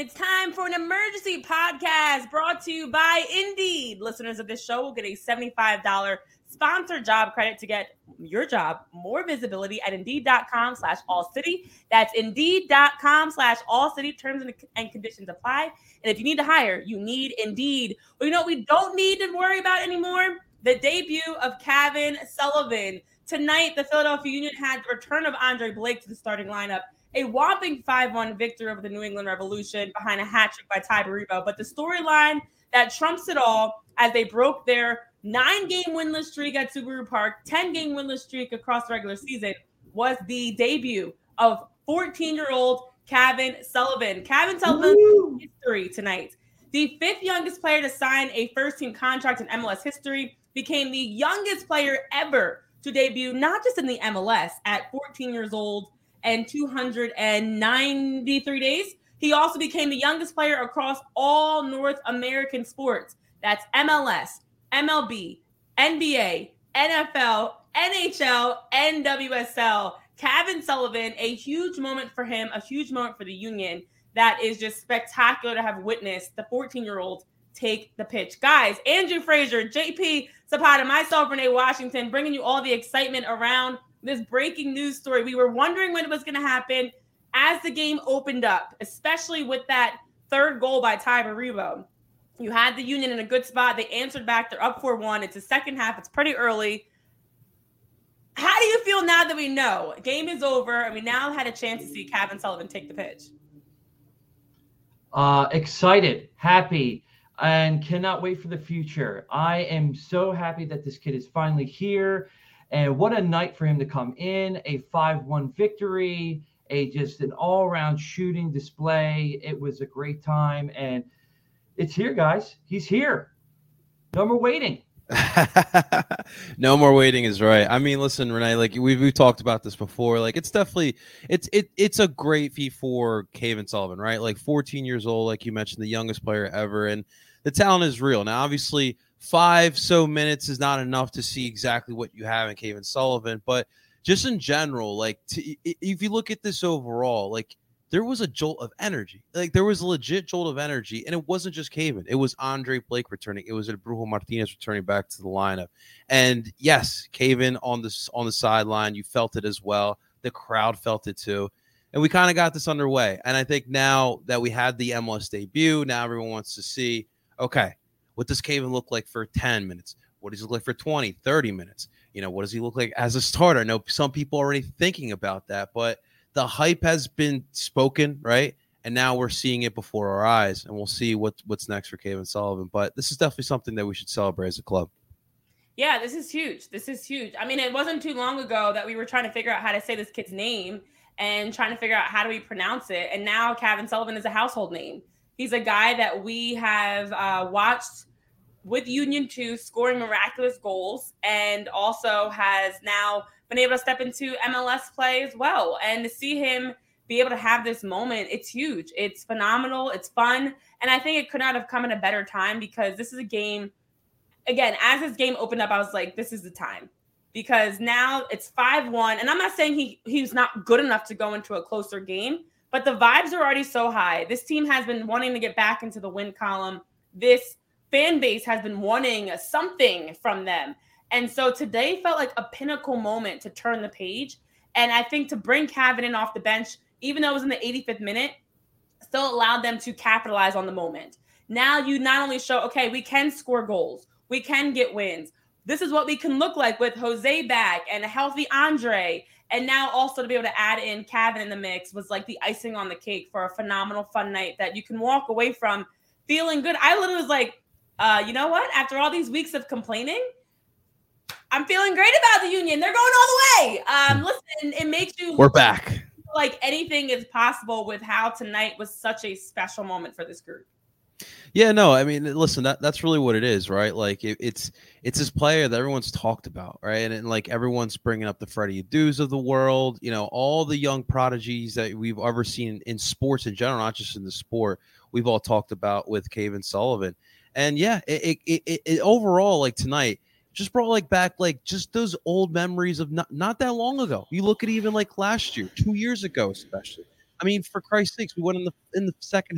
it's time for an emergency podcast brought to you by Indeed. Listeners of this show will get a $75 sponsored job credit to get your job more visibility at Indeed.com/AllCity. That's Indeed.com/AllCity. Terms and conditions apply. And if you need to hire, you need Indeed. Well, you know what we don't need to worry about anymore? The debut of Kevin Sullivan. Tonight, the Philadelphia Union had the return of Andre Blake to the starting lineup. A whopping 5-1 victory over the New England Revolution behind a hat trick by Ty Baribo. But the storyline that trumps it all as they broke their 9-game winless streak at Subaru Park, 10-game winless streak across the regular season, was the debut of 14-year-old Kevin Sullivan. Kevin Sullivan's history tonight. The 5th youngest player to sign a first-team contract in MLS history, became the youngest player ever to debut, not just in the MLS, at 14 years old and 293 days. He also became the youngest player across all North American sports. That's MLS, MLB, NBA, NFL, NHL, and WSL. Kevin Sullivan, a huge moment for him, a huge moment for the Union. That is just spectacular to have witnessed the 14-year-old take the pitch. Guys, Andrew Frazier, JP Zapata, myself, Renee Washington, bringing you all the excitement around this breaking news story. We were wondering when it was going to happen as the game opened up, especially with that third goal by Ty Baribo. You had the Union in a good spot. They answered back. They're up 4-1. It's the second half. It's pretty early. How do you feel now that we know? Game is over, and we now had a chance to see Kevin Sullivan take the pitch. Excited, happy, and cannot wait for the future. I am so happy that this kid is finally here. And what a night for him to come in, a 5-1 victory, just an all-around shooting display. It was a great time, and it's here, guys. He's here. No more waiting. No more waiting is right. I mean, listen, Renee, like we've talked about this before. Like it's definitely it's a great feat for Kevin Sullivan, right? Like 14 years old, like you mentioned, the youngest player ever, and the talent is real. Now, obviously, 5 minutes is not enough to see exactly what you have in Kevin Sullivan, but just in general, like if you look at this overall, like there was a jolt of energy. Like there was a legit jolt of energy, and it wasn't just Kevin. It was Andre Blake returning. It was Brujo Martinez returning back to the lineup. And yes, Kevin on the sideline, you felt it as well. The crowd felt it too. And we kind of got this underway. And I think now that we had the MLS debut, now everyone wants to see, okay, what does Kevin look like for 10 minutes? What does he look like for 20, 30 minutes? You know, what does he look like as a starter? I know some people are already thinking about that, but the hype has been spoken, right? And now we're seeing it before our eyes, and we'll see what's next for Kevin Sullivan. But this is definitely something that we should celebrate as a club. Yeah, this is huge. This is huge. I mean, it wasn't too long ago that we were trying to figure out how to say this kid's name and trying to figure out how do we pronounce it. And now Kevin Sullivan is a household name. He's a guy that we have watched with Union 2 scoring miraculous goals, and also has now been able to step into MLS play as well. And to see him be able to have this moment, it's huge. It's phenomenal. It's fun. And I think it could not have come at a better time, because this is a game, again, as this game opened up, I was like, this is the time. Because now it's 5-1. And I'm not saying he's not good enough to go into a closer game, but the vibes are already so high. This team has been wanting to get back into the win column. This fan base has been wanting something from them. And so today felt like a pinnacle moment to turn the page. And I think to bring Kevin in off the bench, even though it was in the 85th minute, still allowed them to capitalize on the moment. Now you not only show, okay, we can score goals, we can get wins. This is what we can look like with Jose back and a healthy Andre. And now also to be able to add in Kevin in the mix was like the icing on the cake for a phenomenal, fun night that you can walk away from feeling good. I literally was like, you know what? After all these weeks of complaining, I'm feeling great about the Union. They're going all the way. Listen, it makes you We're back. Feel like anything is possible with how tonight was such a special moment for this group. Yeah, no, I mean, listen, that's really what it is, right? Like it's this player that everyone's talked about, right? And like everyone's bringing up the Freddie Adus of the world, you know, all the young prodigies that we've ever seen in sports in general, not just in the sport. We've all talked about with Kevin Sullivan. And yeah, it overall, like tonight, just brought like back like just those old memories of not that long ago. You look at even like last year, 2 years ago, especially. I mean, for Christ's sakes, we went in the second half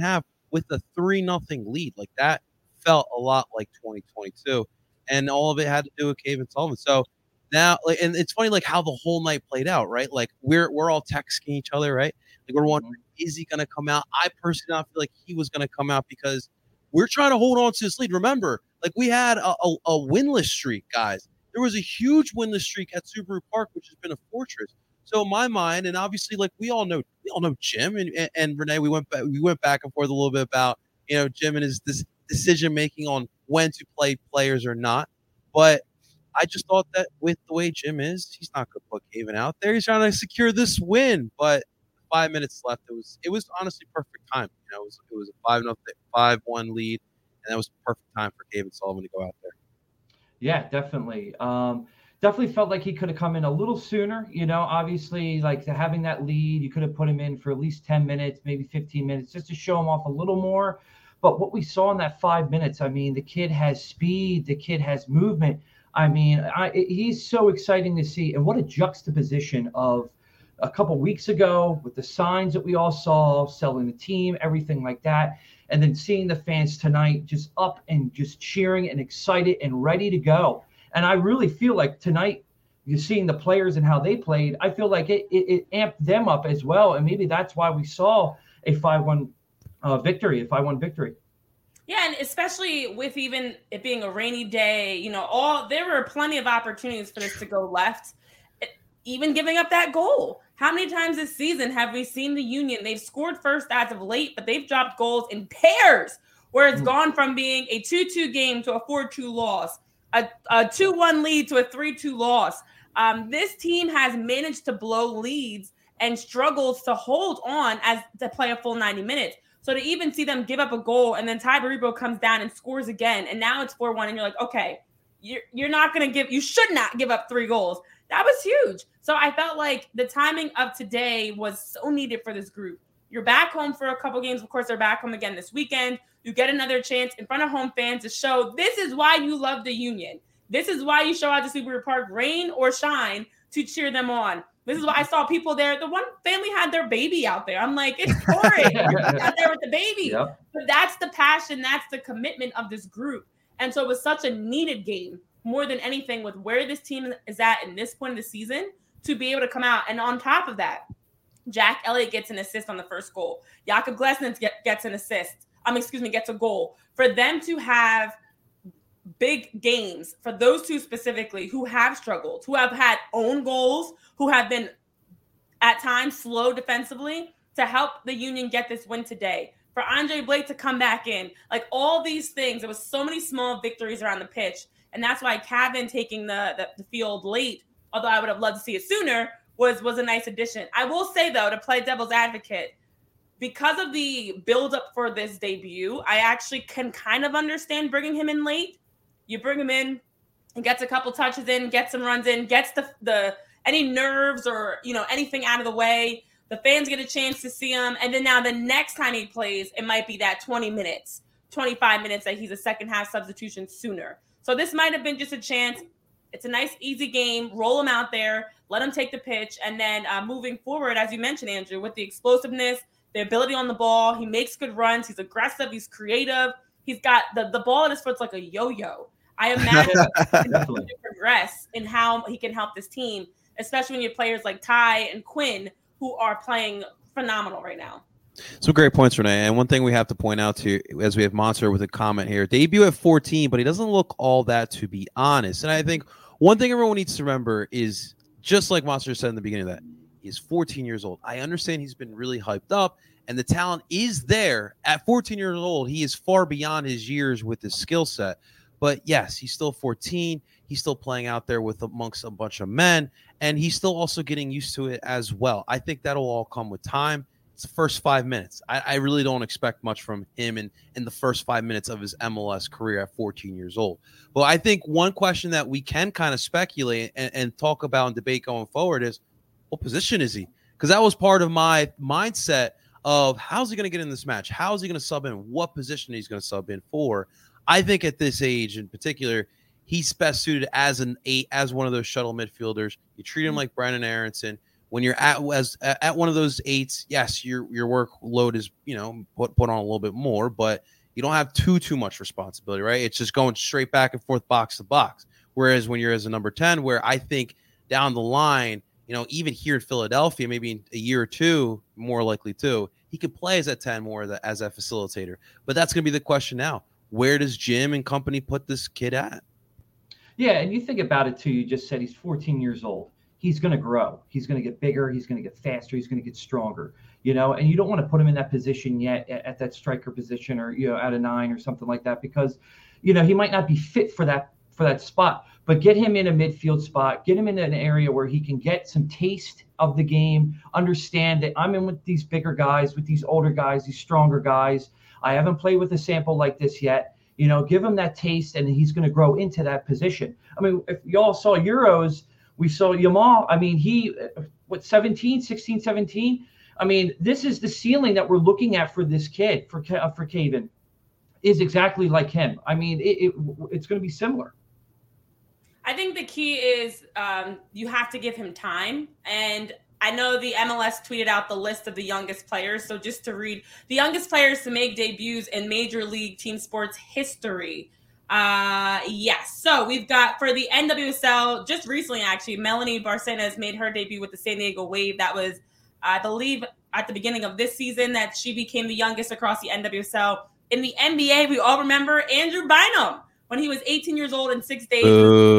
with a 3-0 lead. Like that felt a lot like 2022, and all of it had to do with Kevin Sullivan. So now, like, and it's funny, like how the whole night played out, right? Like we're all texting each other, right? Like we're wondering, is he going to come out? I personally don't feel like he was going to come out because we're trying to hold on to this lead. Remember, like we had a winless streak, guys. There was a huge winless streak at Subaru Park, which has been a fortress. So in my mind, and obviously, like we all know Jim and Renee. We went back and forth a little bit about Jim and his decision making on when to play players or not. But I just thought that with the way Jim is, he's not going to put Caven out there. He's trying to secure this win. But 5 minutes left, it was honestly perfect time. It was a 5-1 lead, and that was perfect time for Kevin Sullivan to go out there. Yeah, definitely. Definitely felt like he could have come in a little sooner. Obviously, like having that lead, you could have put him in for at least 10 minutes, maybe 15 minutes, just to show him off a little more. But what we saw in that 5 minutes, I mean, the kid has speed, the kid has movement. I mean, he's so exciting to see. And what a juxtaposition of a couple weeks ago with the signs that we all saw, selling the team, everything like that. And then seeing the fans tonight just up and just cheering and excited and ready to go. And I really feel like tonight, you're seeing the players and how they played. I feel like it amped them up as well. And maybe that's why we saw a 5-1 victory. Yeah, and especially with even it being a rainy day, there were plenty of opportunities for this to go left. Even giving up that goal. How many times this season have we seen the Union? They've scored first as of late, but they've dropped goals in pairs where it's gone from being a 2-2 game to a 4-2 loss, a 2-1 lead to a 3-2 loss. This team has managed to blow leads and struggles to hold on as to play a full 90 minutes. So to even see them give up a goal and then Ty Baribo comes down and scores again, and now it's 4-1, and you're like, okay, you should not give up 3 goals. That was huge. So I felt like the timing of today was so needed for this group. You're back home for a couple games. Of course, they're back home again this weekend. You get another chance in front of home fans to show this is why you love the Union. This is why you show out to Subaru Park, rain or shine, to cheer them on. This is why I saw people there. The one family had their baby out there. I'm like, it's pouring. You're out there with the baby. Yep. But that's the passion. That's the commitment of this group. And so it was such a needed game, more than anything, with where this team is at in this point of the season, to be able to come out. And on top of that, Jack Elliott gets an assist on the first goal. Jakob Glesnes gets an assist. Gets a goal. For them to have big games, for those two specifically, who have struggled, who have had own goals, who have been at times slow defensively, to help the Union get this win today. For Andre Blake to come back in, like all these things, there was so many small victories around the pitch. And that's why Cavan taking the field late, although I would have loved to see it sooner, was a nice addition. I will say, though, to play devil's advocate, because of the buildup for this debut, I actually can kind of understand bringing him in late. You bring him in, he gets a couple touches in, gets some runs in, gets the any nerves or anything out of the way. The fans get a chance to see him. And then now the next time he plays, it might be that 20 minutes, 25 minutes that he's a second half substitution sooner. So this might have been just a chance. It's a nice, easy game. Roll him out there. Let him take the pitch. And then moving forward, as you mentioned, Andrew, with the explosiveness, the ability on the ball, he makes good runs. He's aggressive. He's creative. He's got the ball at his foot's like a yo-yo. I imagine he can progress in how he can help this team, especially when you have players like Ty and Quinn who are playing phenomenal right now. Some great points, Renee. And one thing we have to point out to, as we have Monster with a comment here, debut at 14, but he doesn't look all that, to be honest. And I think one thing everyone needs to remember is, just like Monster said in the beginning of that, he's 14 years old. I understand he's been really hyped up, and the talent is there. At 14 years old, he is far beyond his years with his skill set. But yes, he's still 14. He's still playing out there with amongst a bunch of men, and he's still also getting used to it as well. I think that'll all come with time. It's the first 5 minutes. I really don't expect much from him in the first 5 minutes of his MLS career at 14 years old. But I think one question that we can kind of speculate and talk about and debate going forward is, what position is he? Because that was part of my mindset of how's he going to get in this match? How is he going to sub in? What position he's going to sub in for? I think at this age in particular, he's best suited as an 8, as one of those shuttle midfielders. You treat him like Brandon Aronson, when you're at one of those 8s, yes, your workload is, put on a little bit more, but you don't have too much responsibility, right? It's just going straight back and forth, box to box. Whereas when you're as a number 10, where I think down the line, even here in Philadelphia, maybe in a year or two, more likely too, he could play as a 10 more as a facilitator. But that's going to be the question now. Where does Jim and company put this kid at? Yeah, and you think about it too. You just said he's 14 years old. He's going to grow. He's going to get bigger. He's going to get faster. He's going to get stronger. And you don't want to put him in that position yet, at that striker position, or at a 9 or something like that, because he might not be fit for that spot. But get him in a midfield spot. Get him in an area where he can get some taste of the game. Understand that I'm in with these bigger guys, with these older guys, these stronger guys. I haven't played with a sample like this yet. Give him that taste, and he's going to grow into that position. I mean, if y'all saw Euros, we saw Yamal. I mean, he, 16, 17? I mean, this is the ceiling that we're looking at for this kid, for Caven, is exactly like him. I mean, it's going to be similar. I think the key is you have to give him time. And I know the MLS tweeted out the list of the youngest players. So just to read, the youngest players to make debuts in Major League Team Sports history. Yes. So we've got, for the NWSL, just recently actually, Melanie Barcenas made her debut with the San Diego Wave. That was, I believe, at the beginning of this season that she became the youngest across the NWSL. In the NBA, we all remember Andrew Bynum when he was 18 years old in 6 days.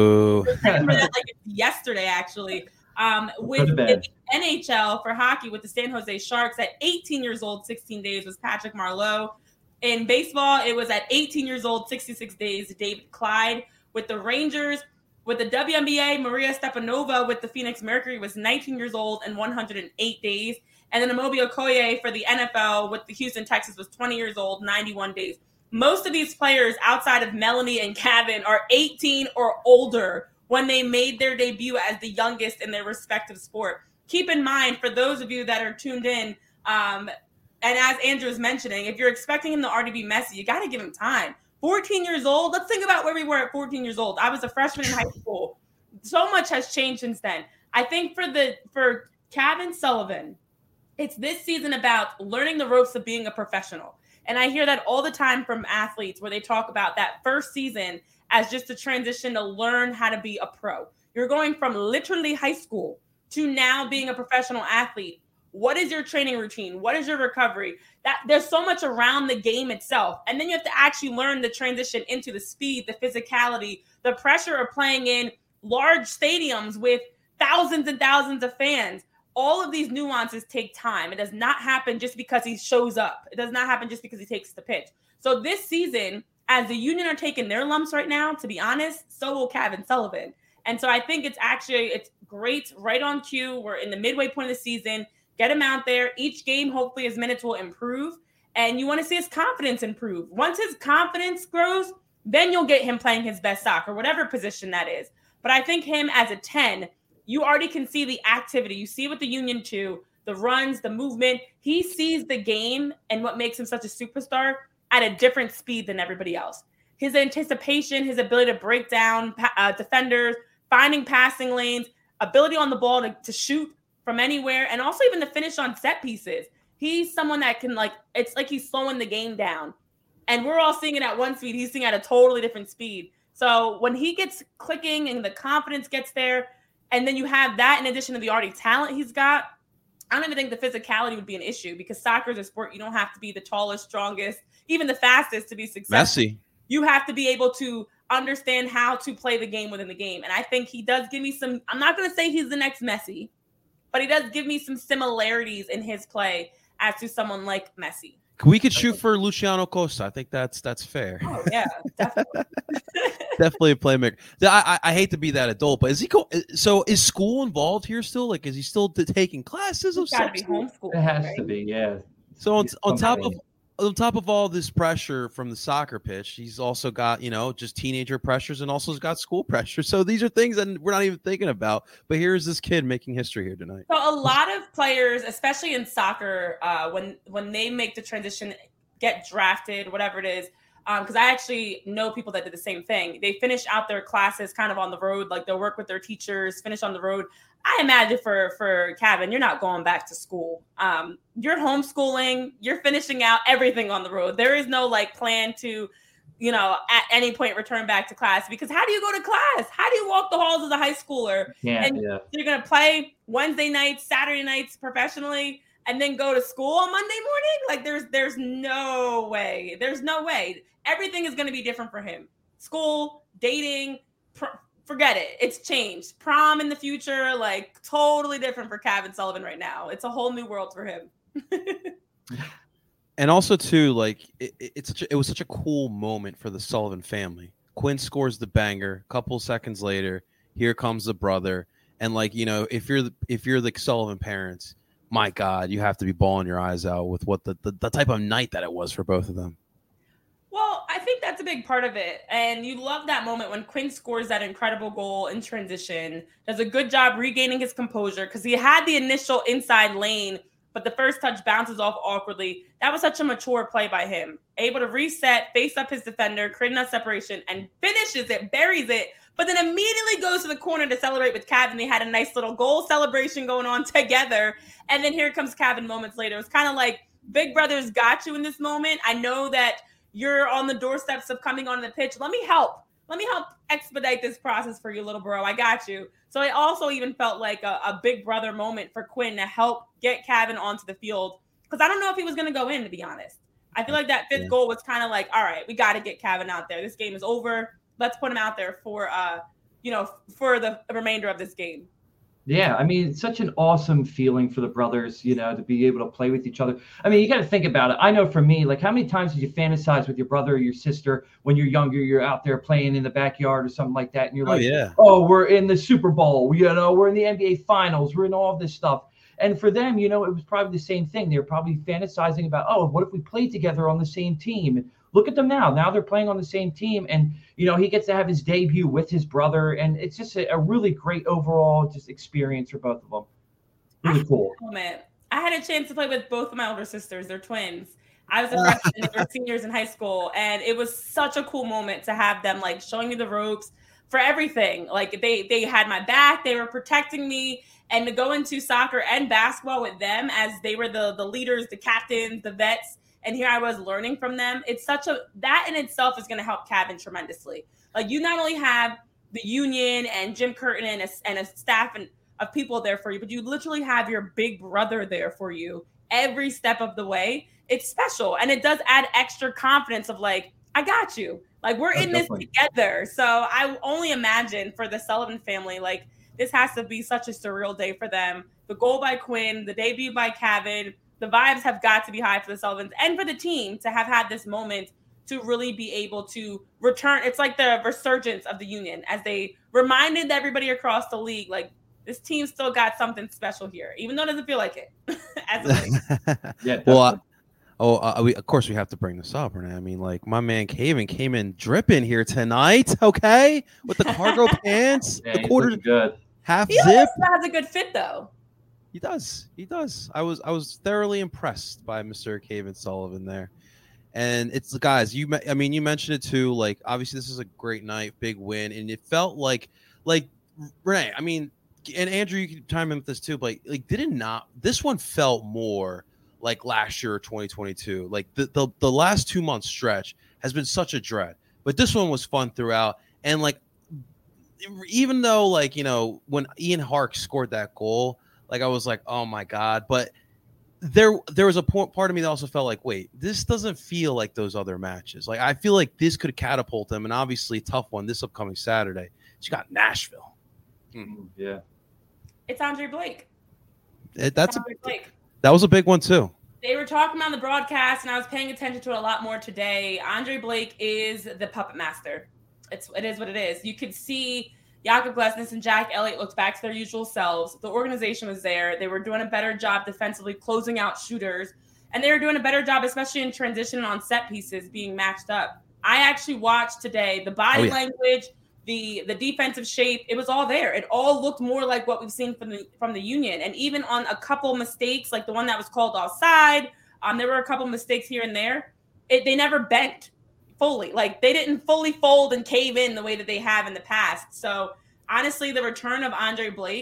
I remember that like yesterday, actually. With the NHL for hockey with the San Jose Sharks at 18 years old, 16 days was Patrick Marleau. In baseball, it was at 18 years old, 66 days, David Clyde. With the Rangers, with the WNBA, Maria Stepanova with the Phoenix Mercury was 19 years old and 108 days. And then Amobi Okoye for the NFL with the Houston Texans was 20 years old, 91 days. Most of these players outside of Melanie and Kevin are 18 or older when they made their debut as the youngest in their respective sport. Keep in mind, for those of you that are tuned in, and as Andrew was mentioning, if you're expecting him to already be Messi, you got to give him time. 14 years old, let's think about where we were at 14 years old. I was a freshman in high school. So much has changed since then. I think for Kevin Sullivan, it's this season about learning the ropes of being a professional. And I hear that all the time from athletes where they talk about that first season as just a transition to learn how to be a pro. You're going from literally high school to now being a professional athlete. What is your training routine? What is your recovery? That there's so much around the game itself. And then you have to actually learn the transition into the speed, the physicality, the pressure of playing in large stadiums with thousands and thousands of fans. All of these nuances take time. It does not happen just because he shows up. It does not happen just because he takes the pitch. So this season, as the Union are taking their lumps right now, to be honest, so will Kevin Sullivan. And so I think it's great, right on cue. We're in the midway point of the season. Get him out there. Each game, hopefully his minutes will improve. And you want to see his confidence improve. Once his confidence grows, then you'll get him playing his best soccer, whatever position that is. But I think him as a 10, you already can see the activity. You see with the Union too, the runs, the movement. He sees the game and what makes him such a superstar at a different speed than everybody else. His anticipation, his ability to break down defenders, finding passing lanes, ability on the ball to shoot from anywhere, and also even to finish on set pieces. He's someone that can, it's like he's slowing the game down. And we're all seeing it at one speed. He's seeing it at a totally different speed. So when he gets clicking and the confidence gets there, and then you have that in addition to the already talent he's got, I don't even think the physicality would be an issue, because soccer is a sport. You don't have to be the tallest, strongest, even the fastest to be successful. Messi. You have to be able to understand how to play the game within the game. And I think he does give me some, I'm not going to say he's the next Messi, but he does give me some similarities in his play as to someone like Messi. We could shoot for Luciano Costa. I think that's fair. Oh, yeah, definitely. Definitely a playmaker. I hate to be that adult, but is school involved here still? Like, is he still taking classes? It's got to be homeschooled. It has to be, yeah. So on top of all this pressure from the soccer pitch, he's also got, just teenager pressures, and also has got school pressure. So these are things that we're not even thinking about. But here's this kid making history here tonight. So a lot of players, especially in soccer, when they make the transition, get drafted, whatever it is, because I actually know people that did the same thing. They finish out their classes kind of on the road, like they'll work with their teachers, finish on the road. I imagine for Kevin, you're not going back to school. You're homeschooling. You're finishing out everything on the road. There is no like plan to, at any point return back to class, because how do you go to class? How do you walk the halls as a high schooler? You're going to play Wednesday nights, Saturday nights professionally, and then go to school on Monday morning? Like there's no way. There's no way. Everything is going to be different for him. School, dating, forget it. It's changed. Prom in the future, like totally different for Kevin Sullivan right now. It's a whole new world for him. And also too, like it was such a cool moment for the Sullivan family. Quinn scores the banger. A couple seconds later, here comes the brother. And like, if you're the Sullivan parents, my God, you have to be bawling your eyes out with what the type of night that it was for both of them. Well, I think that's a big part of it. And you love that moment when Quinn scores that incredible goal in transition, does a good job regaining his composure because he had the initial inside lane, but the first touch bounces off awkwardly. That was such a mature play by him. Able to reset, face up his defender, create enough separation, and finishes it, buries it, but then immediately goes to the corner to celebrate with Kevin. They had a nice little goal celebration going on together. And then here comes Kevin moments later. It's kind of like Big Brother's got you in this moment. I know that you're on the doorsteps of coming on the pitch. Let me help expedite this process for you, little bro. I got you. So it also even felt like a Big Brother moment for Quinn to help get Kevin onto the field. Because I don't know if he was going to go in, to be honest. I feel like that fifth goal was kind of like, all right, we got to get Kevin out there. This game is over. Let's put him out there for the remainder of this game. Yeah, I mean, it's such an awesome feeling for the brothers, to be able to play with each other. I mean, you got to think about it. I know for me, like, how many times did you fantasize with your brother or your sister when you're younger, you're out there playing in the backyard or something like that, and you're we're in the Super Bowl, we're in the NBA Finals, we're in all of this stuff. And for them, it was probably the same thing. They were probably fantasizing about, what if we played together on the same team? Look at them now. Now they're playing on the same team. And, he gets to have his debut with his brother. And it's just a really great overall just experience for both of them. Really cool. I had a chance to play with both of my older sisters. They're twins. I was a freshman and they were seniors in high school. And it was such a cool moment to have them like showing me the ropes for everything. Like they had my back. They were protecting me. And to go into soccer and basketball with them as they were the leaders, the captains, the vets. And here I was learning from them. It's that in itself is going to help Kevin tremendously. Like you not only have the union and Jim Curtin and a staff of people there for you, but you literally have your big brother there for you every step of the way. It's special. And it does add extra confidence of like, I got you. Like we're in this together. So I only imagine for the Sullivan family, like this has to be such a surreal day for them. The goal by Quinn, the debut by Kevin, the vibes have got to be high for the Sullivans and for the team to have had this moment to really be able to return. It's like the resurgence of the union as they reminded everybody across the league, like this team still got something special here, even though it doesn't feel like it. Of course we have to bring this up, Renee. I mean, like my man Kevin came in dripping here tonight, okay, with the cargo pants, the quarter good, half he zip. He has a good fit though. He does. I was thoroughly impressed by Mr. Kevin Sullivan there. And it's the guys, you mentioned it too. Like, obviously this is a great night, big win. And it felt like Renee, I mean, and Andrew, you can chime in with this too, but this one felt more like last year or 2022. Like the last 2 months stretch has been such a dread, but this one was fun throughout. And like, even though like, when Ian Hark scored that goal, like I was like, oh my God. But there was a part of me that also felt like, wait, this doesn't feel like those other matches. Like I feel like this could catapult them, and obviously tough one this upcoming Saturday. You got Nashville. Yeah. It's Andre Blake. That was a big one too. They were talking on the broadcast, and I was paying attention to it a lot more today. Andre Blake is the puppet master. It is what it is. You could see Jakob Glesnes and Jack Elliott looked back to their usual selves. The organization was there. They were doing a better job defensively, closing out shooters. And they were doing a better job, especially in transition and on set pieces, being matched up. I actually watched today the body language, the defensive shape. It was all there. It all looked more like what we've seen from the Union. And even on a couple mistakes, like the one that was called offside, there were a couple mistakes here and there. They never bent fully. Like they didn't fully fold and cave in the way that they have in the past. So honestly, the return of Andre Blake,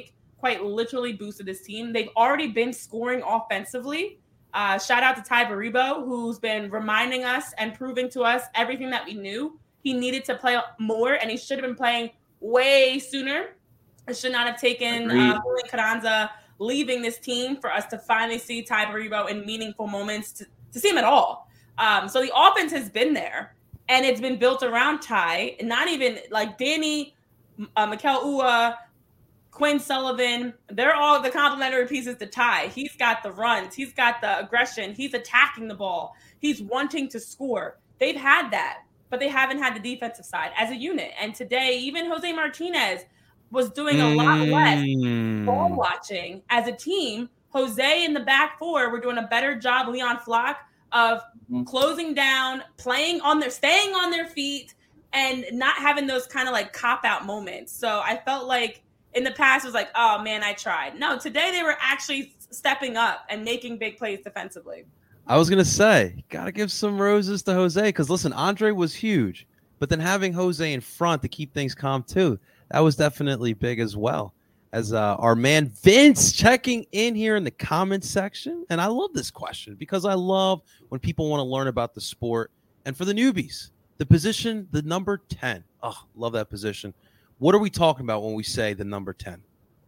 quite literally boosted this team. They've already been scoring offensively. Shout out to Ty Baribo, who's been reminding us and proving to us everything that we knew. He needed to play more, and he should have been playing way sooner. It should not have taken Julian Carranza leaving this team for us to finally see Ty Baribo in meaningful moments to see him at all. So the offense has been there, and it's been built around Ty, and not even like Danny, Mikel Ua, Quinn Sullivan. They're all the complementary pieces to Ty. He's got the runs. He's got the aggression. He's attacking the ball. He's wanting to score. They've had that, but they haven't had the defensive side as a unit. And today, even Jose Martinez was doing a lot less ball watching as a team. Jose in the back four were doing a better job, Leon Flock, of closing down, staying on their feet, and not having those kind of like cop-out moments. So I felt like in the past it was like, oh man, I tried. No, today they were actually stepping up and making big plays defensively. I was going to say, got to give some roses to Jose, because listen, Andre was huge, but then having Jose in front to keep things calm too, that was definitely big as well. As our man Vince checking in here in the comments section. And I love this question because I love when people want to learn about the sport. And for the newbies, the position, the number 10. Oh, love that position. What are we talking about when we say the number 10?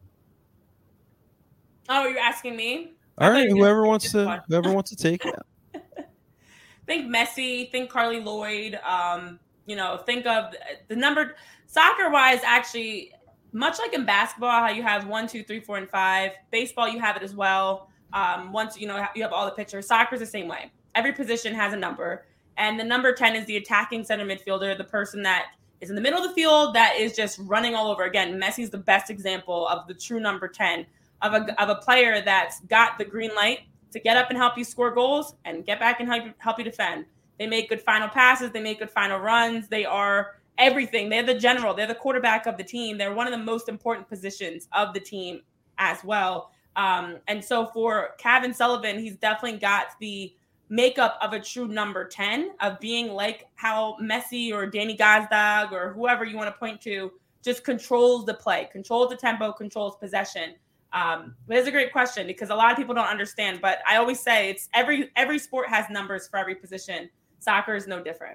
Oh, you're asking me? All right, whoever wants to take it. Think Messi, think Carly Lloyd. Think of the number soccer-wise, actually, much like in basketball, how you have 1, 2, 3, 4, and 5. Baseball, you have it as well. Once you have all the pitchers. Soccer's the same way. Every position has a number, and the number 10 is the attacking center midfielder, the person that is in the middle of the field that is just running all over. Again, Messi's the best example of the true number 10 of a player that's got the green light to get up and help you score goals and get back and help you defend. They make good final passes. They make good final runs. They are everything. They're the general. They're the quarterback of the team. They're one of the most important positions of the team as well. And so for Kevin Sullivan, he's definitely got the makeup of a true number 10, of being like how Messi or Danny Gazdag or whoever you want to point to just controls the play, controls the tempo, controls possession. But it's a great question because a lot of people don't understand. But I always say it's every sport has numbers for every position. Soccer is no different.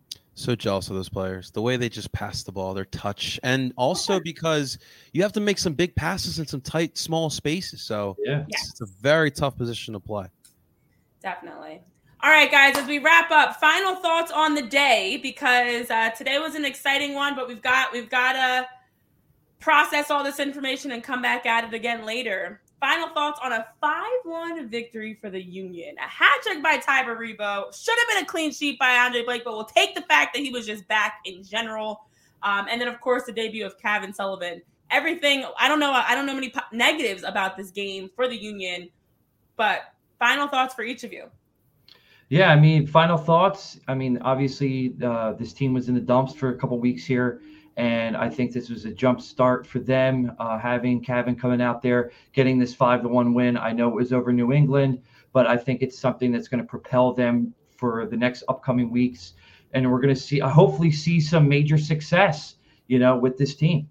So jealous of those players, the way they just pass the ball, their touch, and also because you have to make some big passes in some tight, small spaces. So it's a very tough position to play. Definitely. All right, guys, as we wrap up, final thoughts on the day, because today was an exciting one, but we've got to process all this information and come back at it again later. Final thoughts on a 5-1 victory for the Union. A hat trick by Ty Baribo. Should have been a clean sheet by Andre Blake, but we'll take the fact that he was just back in general. And then, of course, the debut of Kevin Sullivan. Everything, I don't know many negatives about this game for the Union, but final thoughts for each of you. Yeah, I mean, final thoughts. I mean, obviously, this team was in the dumps for a couple weeks here. And I think this was a jump start for them, having Kevin coming out there, getting this 5-1 win. I know it was over New England, but I think it's something that's going to propel them for the next upcoming weeks. And we're going to hopefully see some major success, with this team.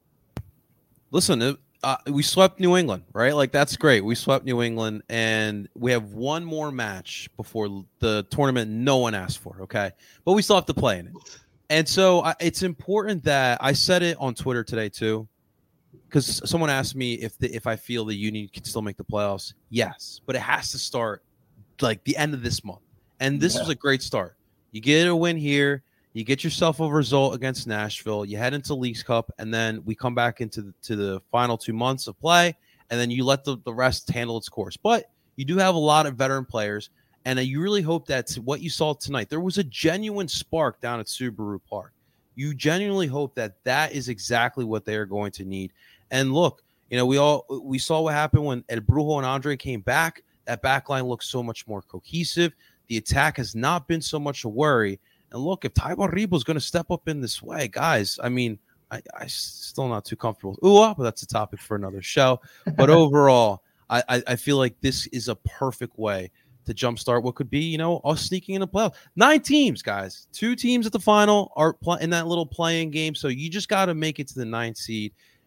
Listen, we swept New England, right? Like, that's great. We swept New England, and we have one more match before the tournament no one asked for, okay? But we still have to play in it. And so it's important that I said it on Twitter today too, because someone asked me if I feel the Union can still make the playoffs. Yes, but it has to start like the end of this month. And this was a great start. You get a win here, you get yourself a result against Nashville, you head into Leagues Cup, and then we come back into the final 2 months of play, and then you let the rest handle its course. But you do have a lot of veteran players. And you really hope that what you saw tonight, there was a genuine spark down at Subaru Park. You genuinely hope that is exactly what they are going to need. And look, we saw what happened when El Brujo and Andre came back. That back line looks so much more cohesive. The attack has not been so much a worry. And look, if Ty Baribo is going to step up in this way, guys, I mean, I still not too comfortable. But that's a topic for another show. But overall, I feel like this is a perfect way to jumpstart what could be, us sneaking in the playoff. 9 teams, guys. 2 teams at the final are in that little playing game. So you just got to make it to the 9th seed.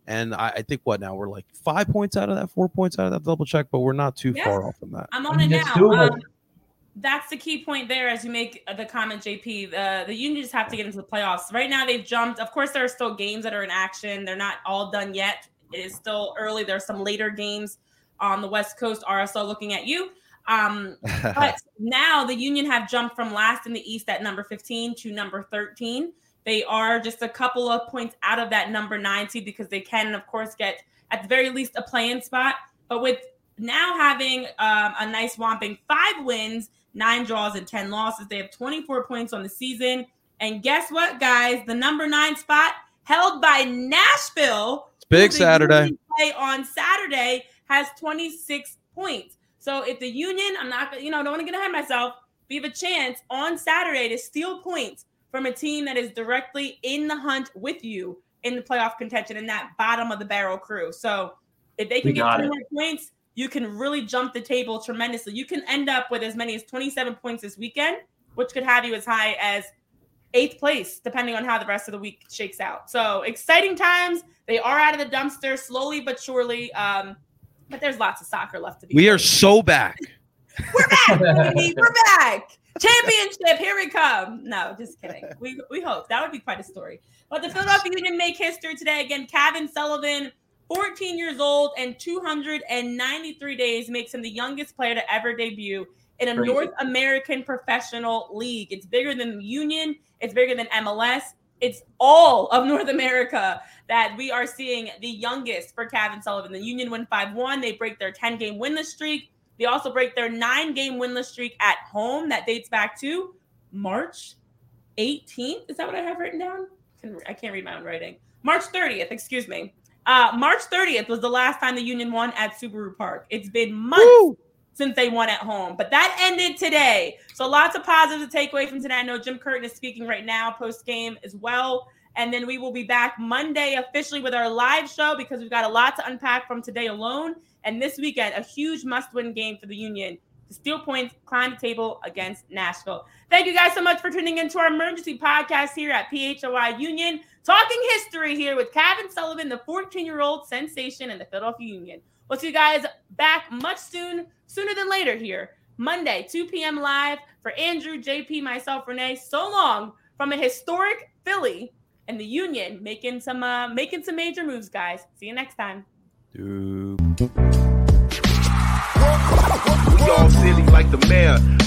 And I think we're like 5 points out of that, 4 points out of that, double check, but we're not too far off from that. I'm on it now. That's the key point there as you make the comment, JP. The Union just have to get into the playoffs. Right now they've jumped. Of course, there are still games that are in action. They're not all done yet. It is still early. There's some later games on the West Coast. RSL looking at you. But now the Union have jumped from last in the East at number 15 to number 13. They are just a couple of points out of that number 9 seed because they can, of course, get at the very least a play-in spot. But with now having a nice whopping 5 wins, 9 draws, and 10 losses, they have 24 points on the season. And guess what, guys? The number 9 spot held by Nashville. It's big Saturday. Play on Saturday has 26 points. So if the Union, I'm not, don't want to get ahead of myself. We have a chance on Saturday to steal points from a team that is directly in the hunt with you in the playoff contention in that bottom of the barrel crew. So if they can get 2 more points, you can really jump the table tremendously. You can end up with as many as 27 points this weekend, which could have you as high as 8th place, depending on how the rest of the week shakes out. So exciting times. They are out of the dumpster slowly but surely. But there's lots of soccer left to be. We are so back. We're back, baby. We're back. Championship, here we come. No, just kidding. We hope. That would be quite a story. But the Philadelphia Union make history today. Again, Kevin Sullivan, 14 years old and 293 days, makes him the youngest player to ever debut in a North American professional league. It's bigger than the Union. It's bigger than MLS. It's all of North America that we are seeing the youngest for Kevin Sullivan. The Union win 5-1. They break their 10-game winless streak. They also break their 9-game winless streak at home. That dates back to March 18th. Is that what I have written down? I can't read my own writing. March 30th, excuse me. March 30th was the last time the Union won at Subaru Park. It's been months since they won at home, but that ended today. So lots of positives to take away from today. I know Jim Curtin is speaking right now post-game as well. And then we will be back Monday officially with our live show because we've got a lot to unpack from today alone. And this weekend, a huge must-win game for the Union to steal points, climb the table against Nashville. Thank you guys so much for tuning into our emergency podcast here at PHOI Union. Talking history here with Kevin Sullivan, the 14-year-old sensation in the Philadelphia Union. We'll see you guys back much sooner than later here. Monday, 2 p.m. live for Andrew, JP, myself, Renee. So long from a historic Philly and the Union making some major moves, guys. See you next time. We all silly like the mayor.